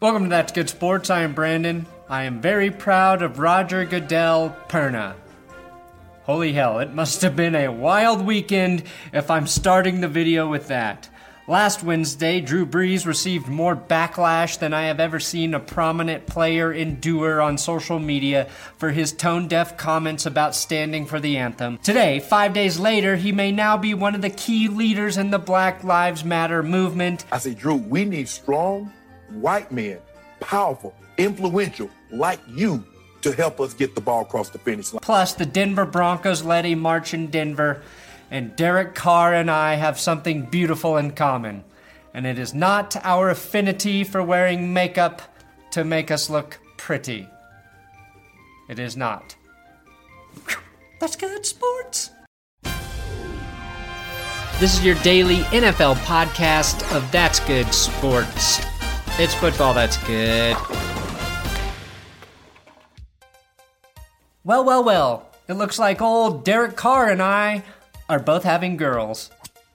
Welcome to That's Good Sports. I am Brandon. I am very proud of Roger Goodell Perna. Holy hell, it must have been a wild weekend if I'm starting the video with that. Last Wednesday, Drew Brees received more backlash than I have ever seen a prominent player endure on social media for his tone-deaf comments about standing for the anthem. Today, 5 days later, he may now be one of the key leaders in the Black Lives Matter movement. I say, Drew, we need strong white men, powerful, influential, like you, to help us get the ball across the finish line. Plus, the Denver Broncos led a march in Denver, and Derek Carr and I have something beautiful in common. And it is not our affinity for wearing makeup to make us look pretty. It is not. That's good sports. This is your daily NFL podcast of That's Good Sports. It's football that's good. Well. It looks like old Derek Carr and I are both having girls.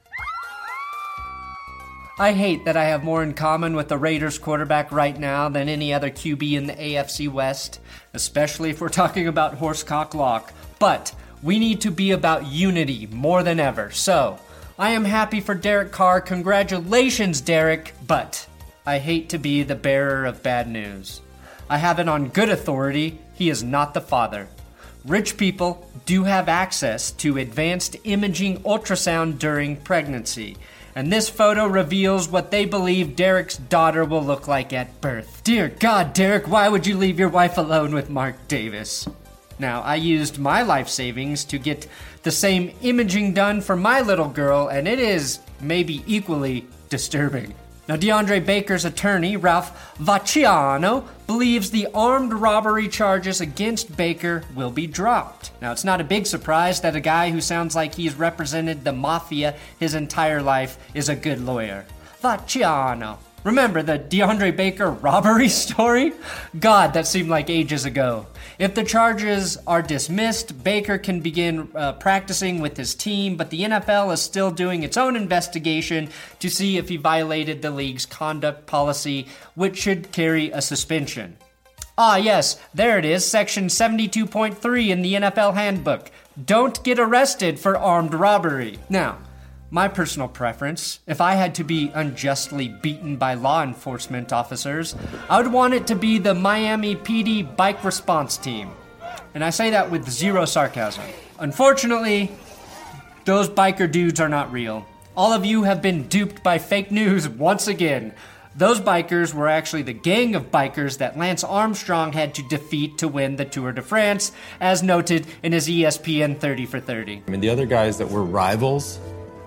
I hate that I have more in common with the Raiders quarterback right now than any other QB in the AFC West, especially if we're talking about horsecock lock. But we need to be about unity more than ever. So, I am happy for Derek Carr. Congratulations, Derek. But I hate to be the bearer of bad news. I have it on good authority. He is not the father. Rich people do have access to advanced imaging ultrasound during pregnancy, and this photo reveals what they believe Derek's daughter will look like at birth. Dear God, Derek, why would you leave your wife alone with Mark Davis? Now, I used my life savings to get the same imaging done for my little girl, and it is maybe equally disturbing. Now, DeAndre Baker's attorney, Ralph Vacciano, believes the armed robbery charges against Baker will be dropped. Now, it's not a big surprise that a guy who sounds like he's represented the mafia his entire life is a good lawyer. Vacciano. Remember the DeAndre Baker robbery story? God, that seemed like ages ago. If the charges are dismissed, Baker can begin practicing with his team, but the NFL is still doing its own investigation to see if he violated the league's conduct policy, which should carry a suspension. Ah, yes, there it is, section 72.3 in the NFL handbook. Don't get arrested for armed robbery. Now, my personal preference, if I had to be unjustly beaten by law enforcement officers, I would want it to be the Miami PD Bike Response Team. And I say that with zero sarcasm. Unfortunately, those biker dudes are not real. All of you have been duped by fake news once again. Those bikers were actually the gang of bikers that Lance Armstrong had to defeat to win the Tour de France, as noted in his ESPN 30 for 30. I mean, the other guys that were rivals,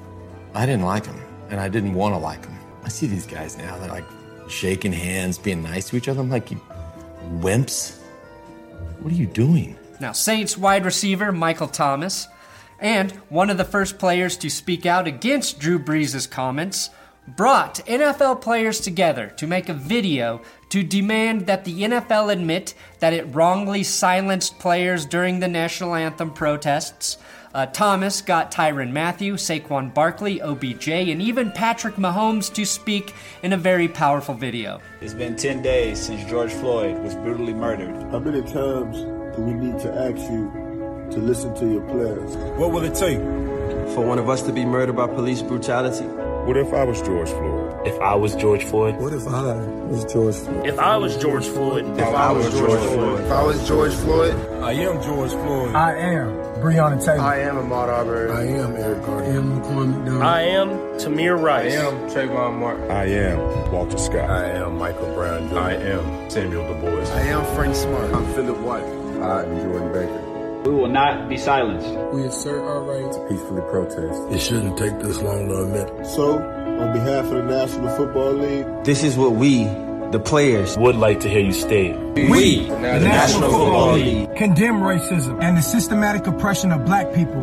I didn't like them, and I didn't want to like them. I see these guys now, they're like shaking hands, being nice to each other. I'm like, you wimps, what are you doing? Now, Saints wide receiver Michael Thomas, and one of the first players to speak out against Drew Brees' comments, brought NFL players together to make a video to demand that the NFL admit that it wrongly silenced players during the national anthem protests. Thomas got Tyrann Mathieu, Saquon Barkley, OBJ, and even Patrick Mahomes to speak in a very powerful video. It's been 10 days since George Floyd was brutally murdered. How many times do we need to ask you to listen to your players? What will it take for one of us to be murdered by police brutality? What if I was George Floyd? If I was George Floyd? What if I was George Floyd? If I was George Floyd? If I was George Floyd? If I was George Floyd? I am George Floyd. I am Breonna Taylor. I am Ahmaud Arbery. I am Eric Garner. I am Laquan McDonald. I am Tamir Rice. I am Trayvon Martin. I am Walter Scott. I am Michael Brown. I am Samuel Du Bois. I am Frank Smart. I'm Philip White. I am Jordan Baker. We will not be silenced. We assert our right to peacefully protest. It shouldn't take this long to admit. So, on behalf of the National Football League, this is what we, the players, would like to hear you state. We, the National Football League, condemn racism and the systematic oppression of black people.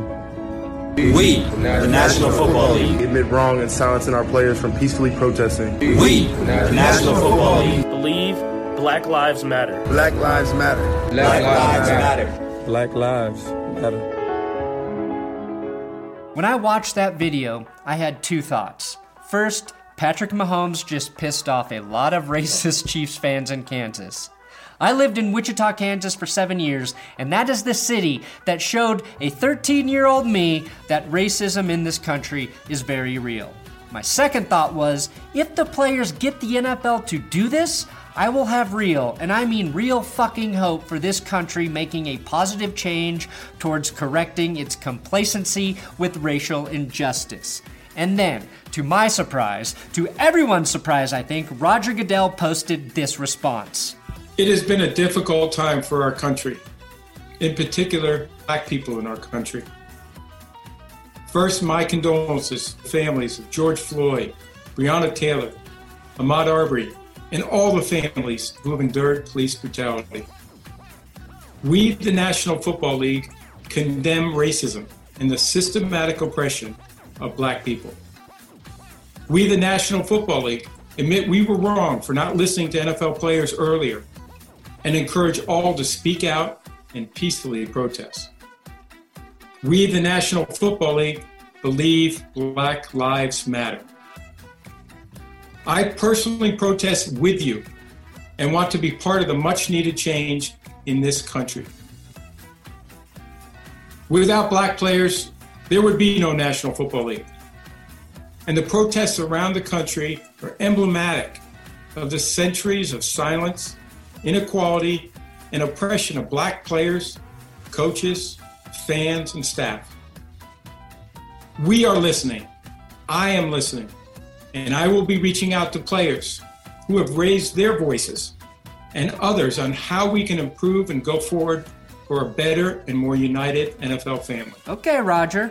We, the National Football League, admit wrong and silencing our players from peacefully protesting. We, the National Football League, believe Black Lives Matter. Black Lives Matter. Black Lives Matter. Black Lives Matter. When I watched that video, I had two thoughts. First, Patrick Mahomes just pissed off a lot of racist Chiefs fans in Kansas. I lived in Wichita, Kansas for 7 years, and that is the city that showed a 13-year-old me that racism in this country is very real. My second thought was, if the players get the NFL to do this, I will have real, and I mean real fucking hope for this country making a positive change towards correcting its complacency with racial injustice. And then, to my surprise, to everyone's surprise I think, Roger Goodell posted this response. It has been a difficult time for our country, in particular, black people in our country. First, my condolences to the families of George Floyd, Breonna Taylor, Ahmaud Arbery, and all the families who have endured police brutality. We, the National Football League, condemn racism and the systematic oppression of black people. We, the National Football League, admit we were wrong for not listening to NFL players earlier and encourage all to speak out and peacefully protest. We, the National Football League, believe Black Lives Matter. I personally protest with you and want to be part of the much-needed change in this country. Without black players, there would be no National Football League. And the protests around the country are emblematic of the centuries of silence, inequality, and oppression of black players, coaches, fans, and staff. We are listening. I am listening. And I will be reaching out to players who have raised their voices and others on how we can improve and go forward for a better and more united NFL family. Okay, Roger.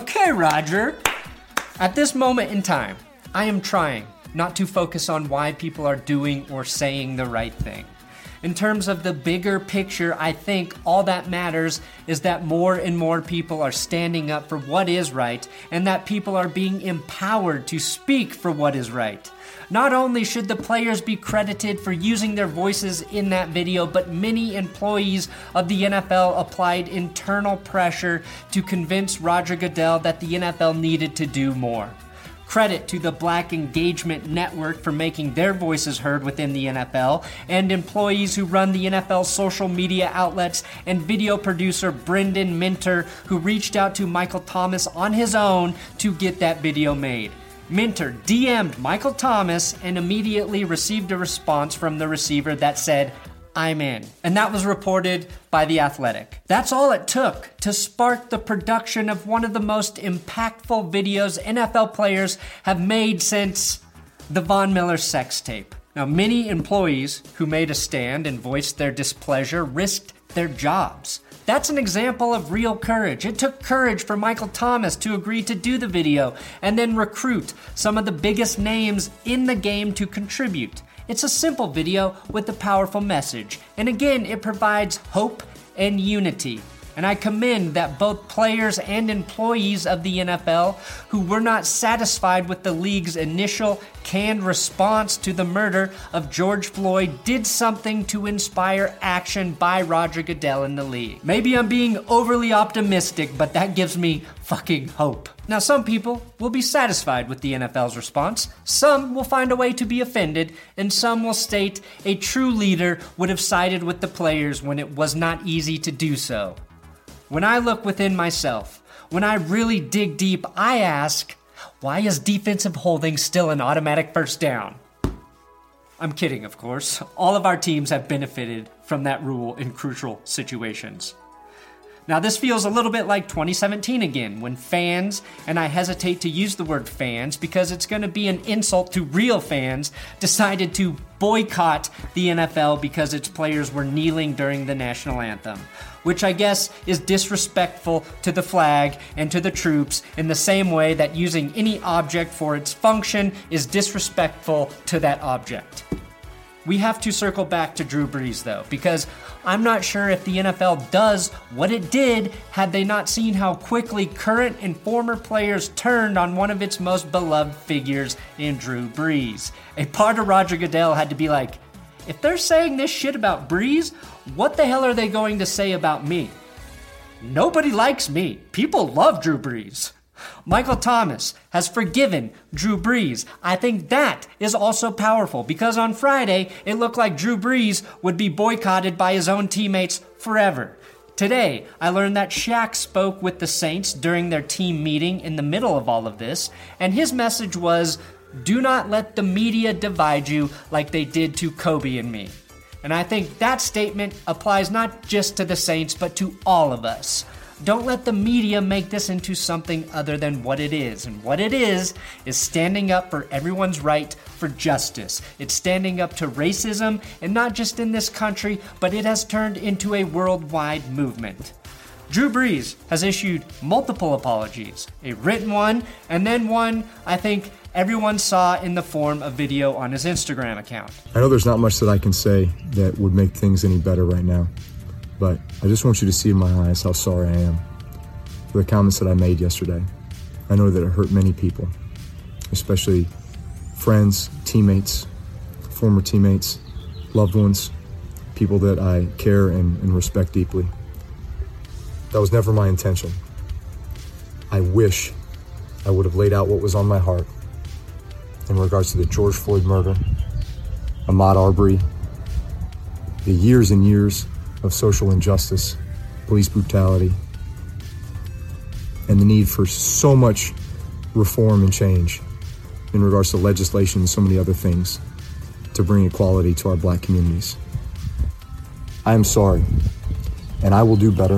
At this moment in time, I am trying not to focus on why people are doing or saying the right thing. In terms of the bigger picture, I think all that matters is that more and more people are standing up for what is right, and that people are being empowered to speak for what is right. Not only should the players be credited for using their voices in that video, but many employees of the NFL applied internal pressure to convince Roger Goodell that the NFL needed to do more. Credit to the Black Engagement Network for making their voices heard within the NFL, and employees who run the NFL social media outlets, and video producer Brendan Minter, who reached out to Michael Thomas on his own to get that video made. Minter DM'd Michael Thomas and immediately received a response from the receiver that said, "I'm in." And that was reported by The Athletic. That's all it took to spark the production of one of the most impactful videos NFL players have made since the Von Miller sex tape. Now, many employees who made a stand and voiced their displeasure risked their jobs. That's an example of real courage. It took courage for Michael Thomas to agree to do the video and then recruit some of the biggest names in the game to contribute. It's a simple video with a powerful message, and again, it provides hope and unity. And I commend that both players and employees of the NFL who were not satisfied with the league's initial canned response to the murder of George Floyd did something to inspire action by Roger Goodell in the league. Maybe I'm being overly optimistic, but that gives me fucking hope. Now, some people will be satisfied with the NFL's response, some will find a way to be offended, and some will state a true leader would have sided with the players when it was not easy to do so. When I look within myself, when I really dig deep, I ask, why is defensive holding still an automatic first down? I'm kidding, of course. All of our teams have benefited from that rule in crucial situations. Now, this feels a little bit like 2017 again, when fans, and I hesitate to use the word fans because it's going to be an insult to real fans, decided to boycott the NFL because its players were kneeling during the national anthem, which I guess is disrespectful to the flag and to the troops in the same way that using any object for its function is disrespectful to that object. We have to circle back to Drew Brees, though, because I'm not sure if the NFL does what it did had they not seen how quickly current and former players turned on one of its most beloved figures in Drew Brees. A part of Roger Goodell had to be like, if they're saying this shit about Brees, what the hell are they going to say about me? Nobody likes me. People love Drew Brees. Michael Thomas has forgiven Drew Brees. I think that is also powerful because on Friday, it looked like Drew Brees would be boycotted by his own teammates forever. Today, I learned that Shaq spoke with the Saints during their team meeting in the middle of all of this, and his message was, do not let the media divide you like they did to Kobe and me. And I think that statement applies not just to the Saints, but to all of us. Don't let the media make this into something other than what it is. And what it is standing up for everyone's right for justice. It's standing up to racism, and not just in this country, but it has turned into a worldwide movement. Drew Brees has issued multiple apologies, a written one, and then one I think everyone saw in the form of video on his Instagram account. I know there's not much that I can say that would make things any better right now, but I just want you to see in my eyes how sorry I am for the comments that I made yesterday. I know that it hurt many people, especially friends, teammates, former teammates, loved ones, people that I care and respect deeply. That was never my intention. I wish I would have laid out what was on my heart in regards to the George Floyd murder, Ahmaud Arbery, the years and years of social injustice, police brutality, and the need for so much reform and change in regards to legislation and so many other things to bring equality to our black communities. I am sorry, and I will do better,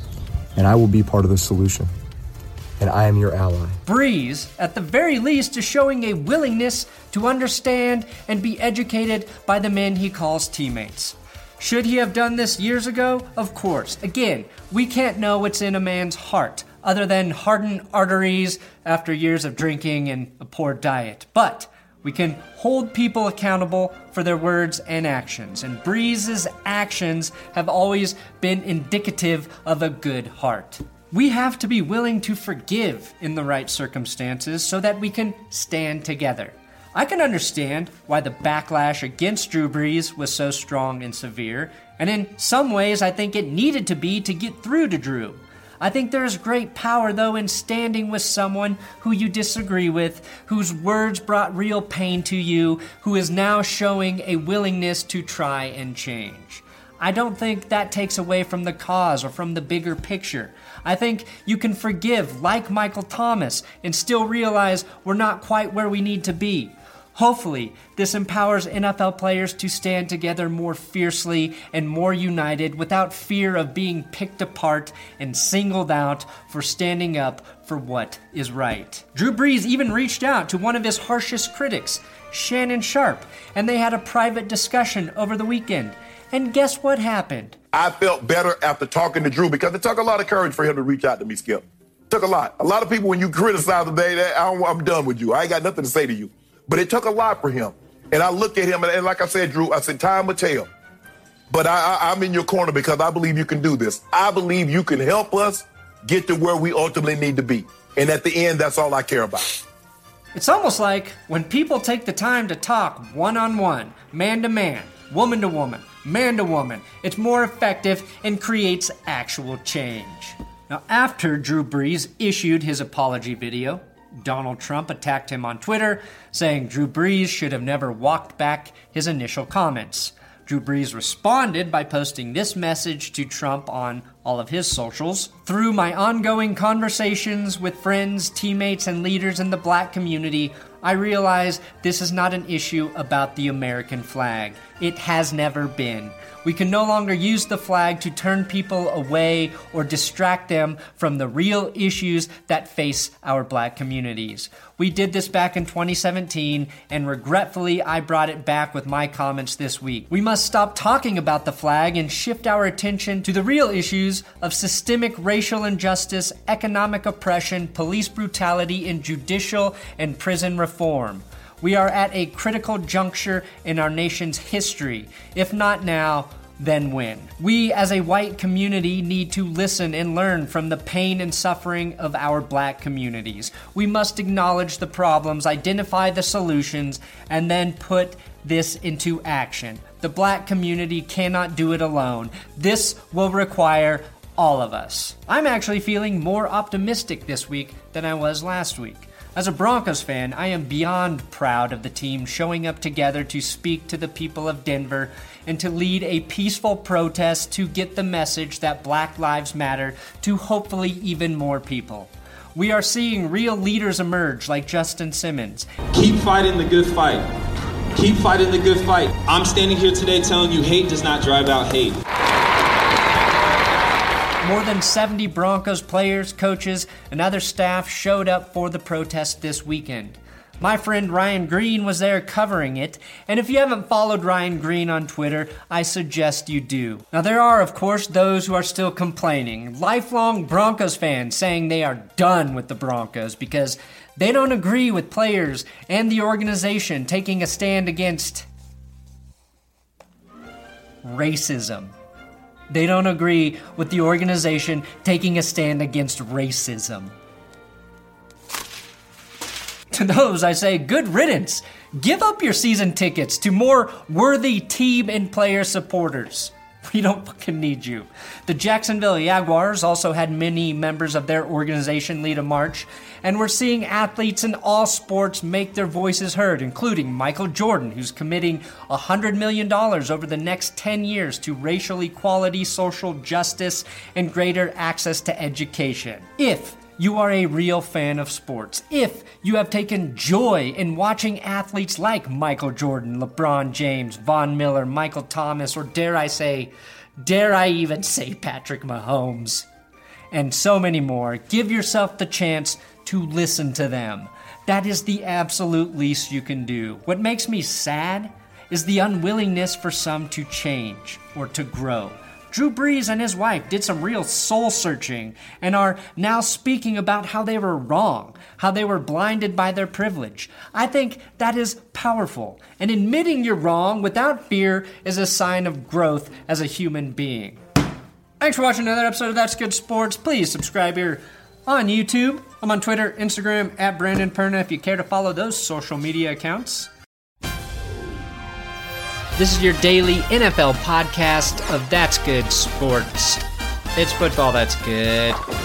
and I will be part of the solution, and I am your ally. Brees, at the very least, is showing a willingness to understand and be educated by the men he calls teammates. Should he have done this years ago? Of course. Again, we can't know what's in a man's heart, other than hardened arteries after years of drinking and a poor diet. But we can hold people accountable for their words and actions, and Brees' actions have always been indicative of a good heart. We have to be willing to forgive in the right circumstances so that we can stand together. I can understand why the backlash against Drew Brees was so strong and severe, and in some ways I think it needed to be to get through to Drew. I think there is great power, though, in standing with someone who you disagree with, whose words brought real pain to you, who is now showing a willingness to try and change. I don't think that takes away from the cause or from the bigger picture. I think you can forgive, like Michael Thomas, and still realize we're not quite where we need to be. Hopefully, this empowers NFL players to stand together more fiercely and more united without fear of being picked apart and singled out for standing up for what is right. Drew Brees even reached out to one of his harshest critics, Shannon Sharpe, and they had a private discussion over the weekend. And guess what happened? I felt better after talking to Drew because it took a lot of courage for him to reach out to me, Skip. It took a lot. A lot of people, when you criticize them, I'm done with you. I ain't got nothing to say to you. But it took a lot for him. And I looked at him, and like I said, Drew, I said, time will tell. But I'm in your corner because I believe you can do this. I believe you can help us get to where we ultimately need to be. And at the end, that's all I care about. It's almost like when people take the time to talk one-on-one, man-to-man, woman-to-woman, man-to-woman, it's more effective and creates actual change. Now, after Drew Brees issued his apology video, Donald Trump attacked him on Twitter, saying Drew Brees should have never walked back his initial comments. Drew Brees responded by posting this message to Trump on all of his socials. Through my ongoing conversations with friends, teammates, and leaders in the black community, I realize this is not an issue about the American flag. It has never been. We can no longer use the flag to turn people away or distract them from the real issues that face our black communities. We did this back in 2017, and regretfully, I brought it back with my comments this week. We must stop talking about the flag and shift our attention to the real issues of systemic racial injustice, economic oppression, police brutality, and judicial and prison reform. We are at a critical juncture in our nation's history. If not now, then when? We as a white community need to listen and learn from the pain and suffering of our black communities. We must acknowledge the problems, identify the solutions, and then put this into action. The black community cannot do it alone. This will require all of us. I'm actually feeling more optimistic this week than I was last week. As a Broncos fan, I am beyond proud of the team showing up together to speak to the people of Denver and to lead a peaceful protest to get the message that Black Lives Matter to hopefully even more people. We are seeing real leaders emerge like Justin Simmons. Keep fighting the good fight. Keep fighting the good fight. I'm standing here today telling you hate does not drive out hate. More than 70 Broncos players, coaches, and other staff showed up for the protest this weekend. My friend Ryan Green was there covering it, and if you haven't followed Ryan Green on Twitter, I suggest you do. Now there are, of course, those who are still complaining, lifelong Broncos fans saying they are done with the Broncos because they don't agree with players and the organization taking a stand against racism. They don't agree with the organization taking a stand against racism. To those, I say, good riddance. Give up your season tickets to more worthy team and player supporters. We don't fucking need you. The Jacksonville Jaguars also had many members of their organization lead a march, and we're seeing athletes in all sports make their voices heard, including Michael Jordan, who's committing $100 million over the next 10 years to racial equality, social justice, and greater access to education. If you are a real fan of sports, if you have taken joy in watching athletes like Michael Jordan, LeBron James, Von Miller, Michael Thomas, or dare I even say Patrick Mahomes, and so many more, give yourself the chance to listen to them. That is the absolute least you can do. What makes me sad is the unwillingness for some to change or to grow. Drew Brees and his wife did some real soul-searching and are now speaking about how they were wrong, how they were blinded by their privilege. I think that is powerful, and admitting you're wrong without fear is a sign of growth as a human being. Thanks for watching another episode of That's Good Sports. Please subscribe here on YouTube. I'm on Twitter, Instagram, at Brandon Perna if you care to follow those social media accounts. This is your daily NFL podcast of That's Good Sports. It's football that's good.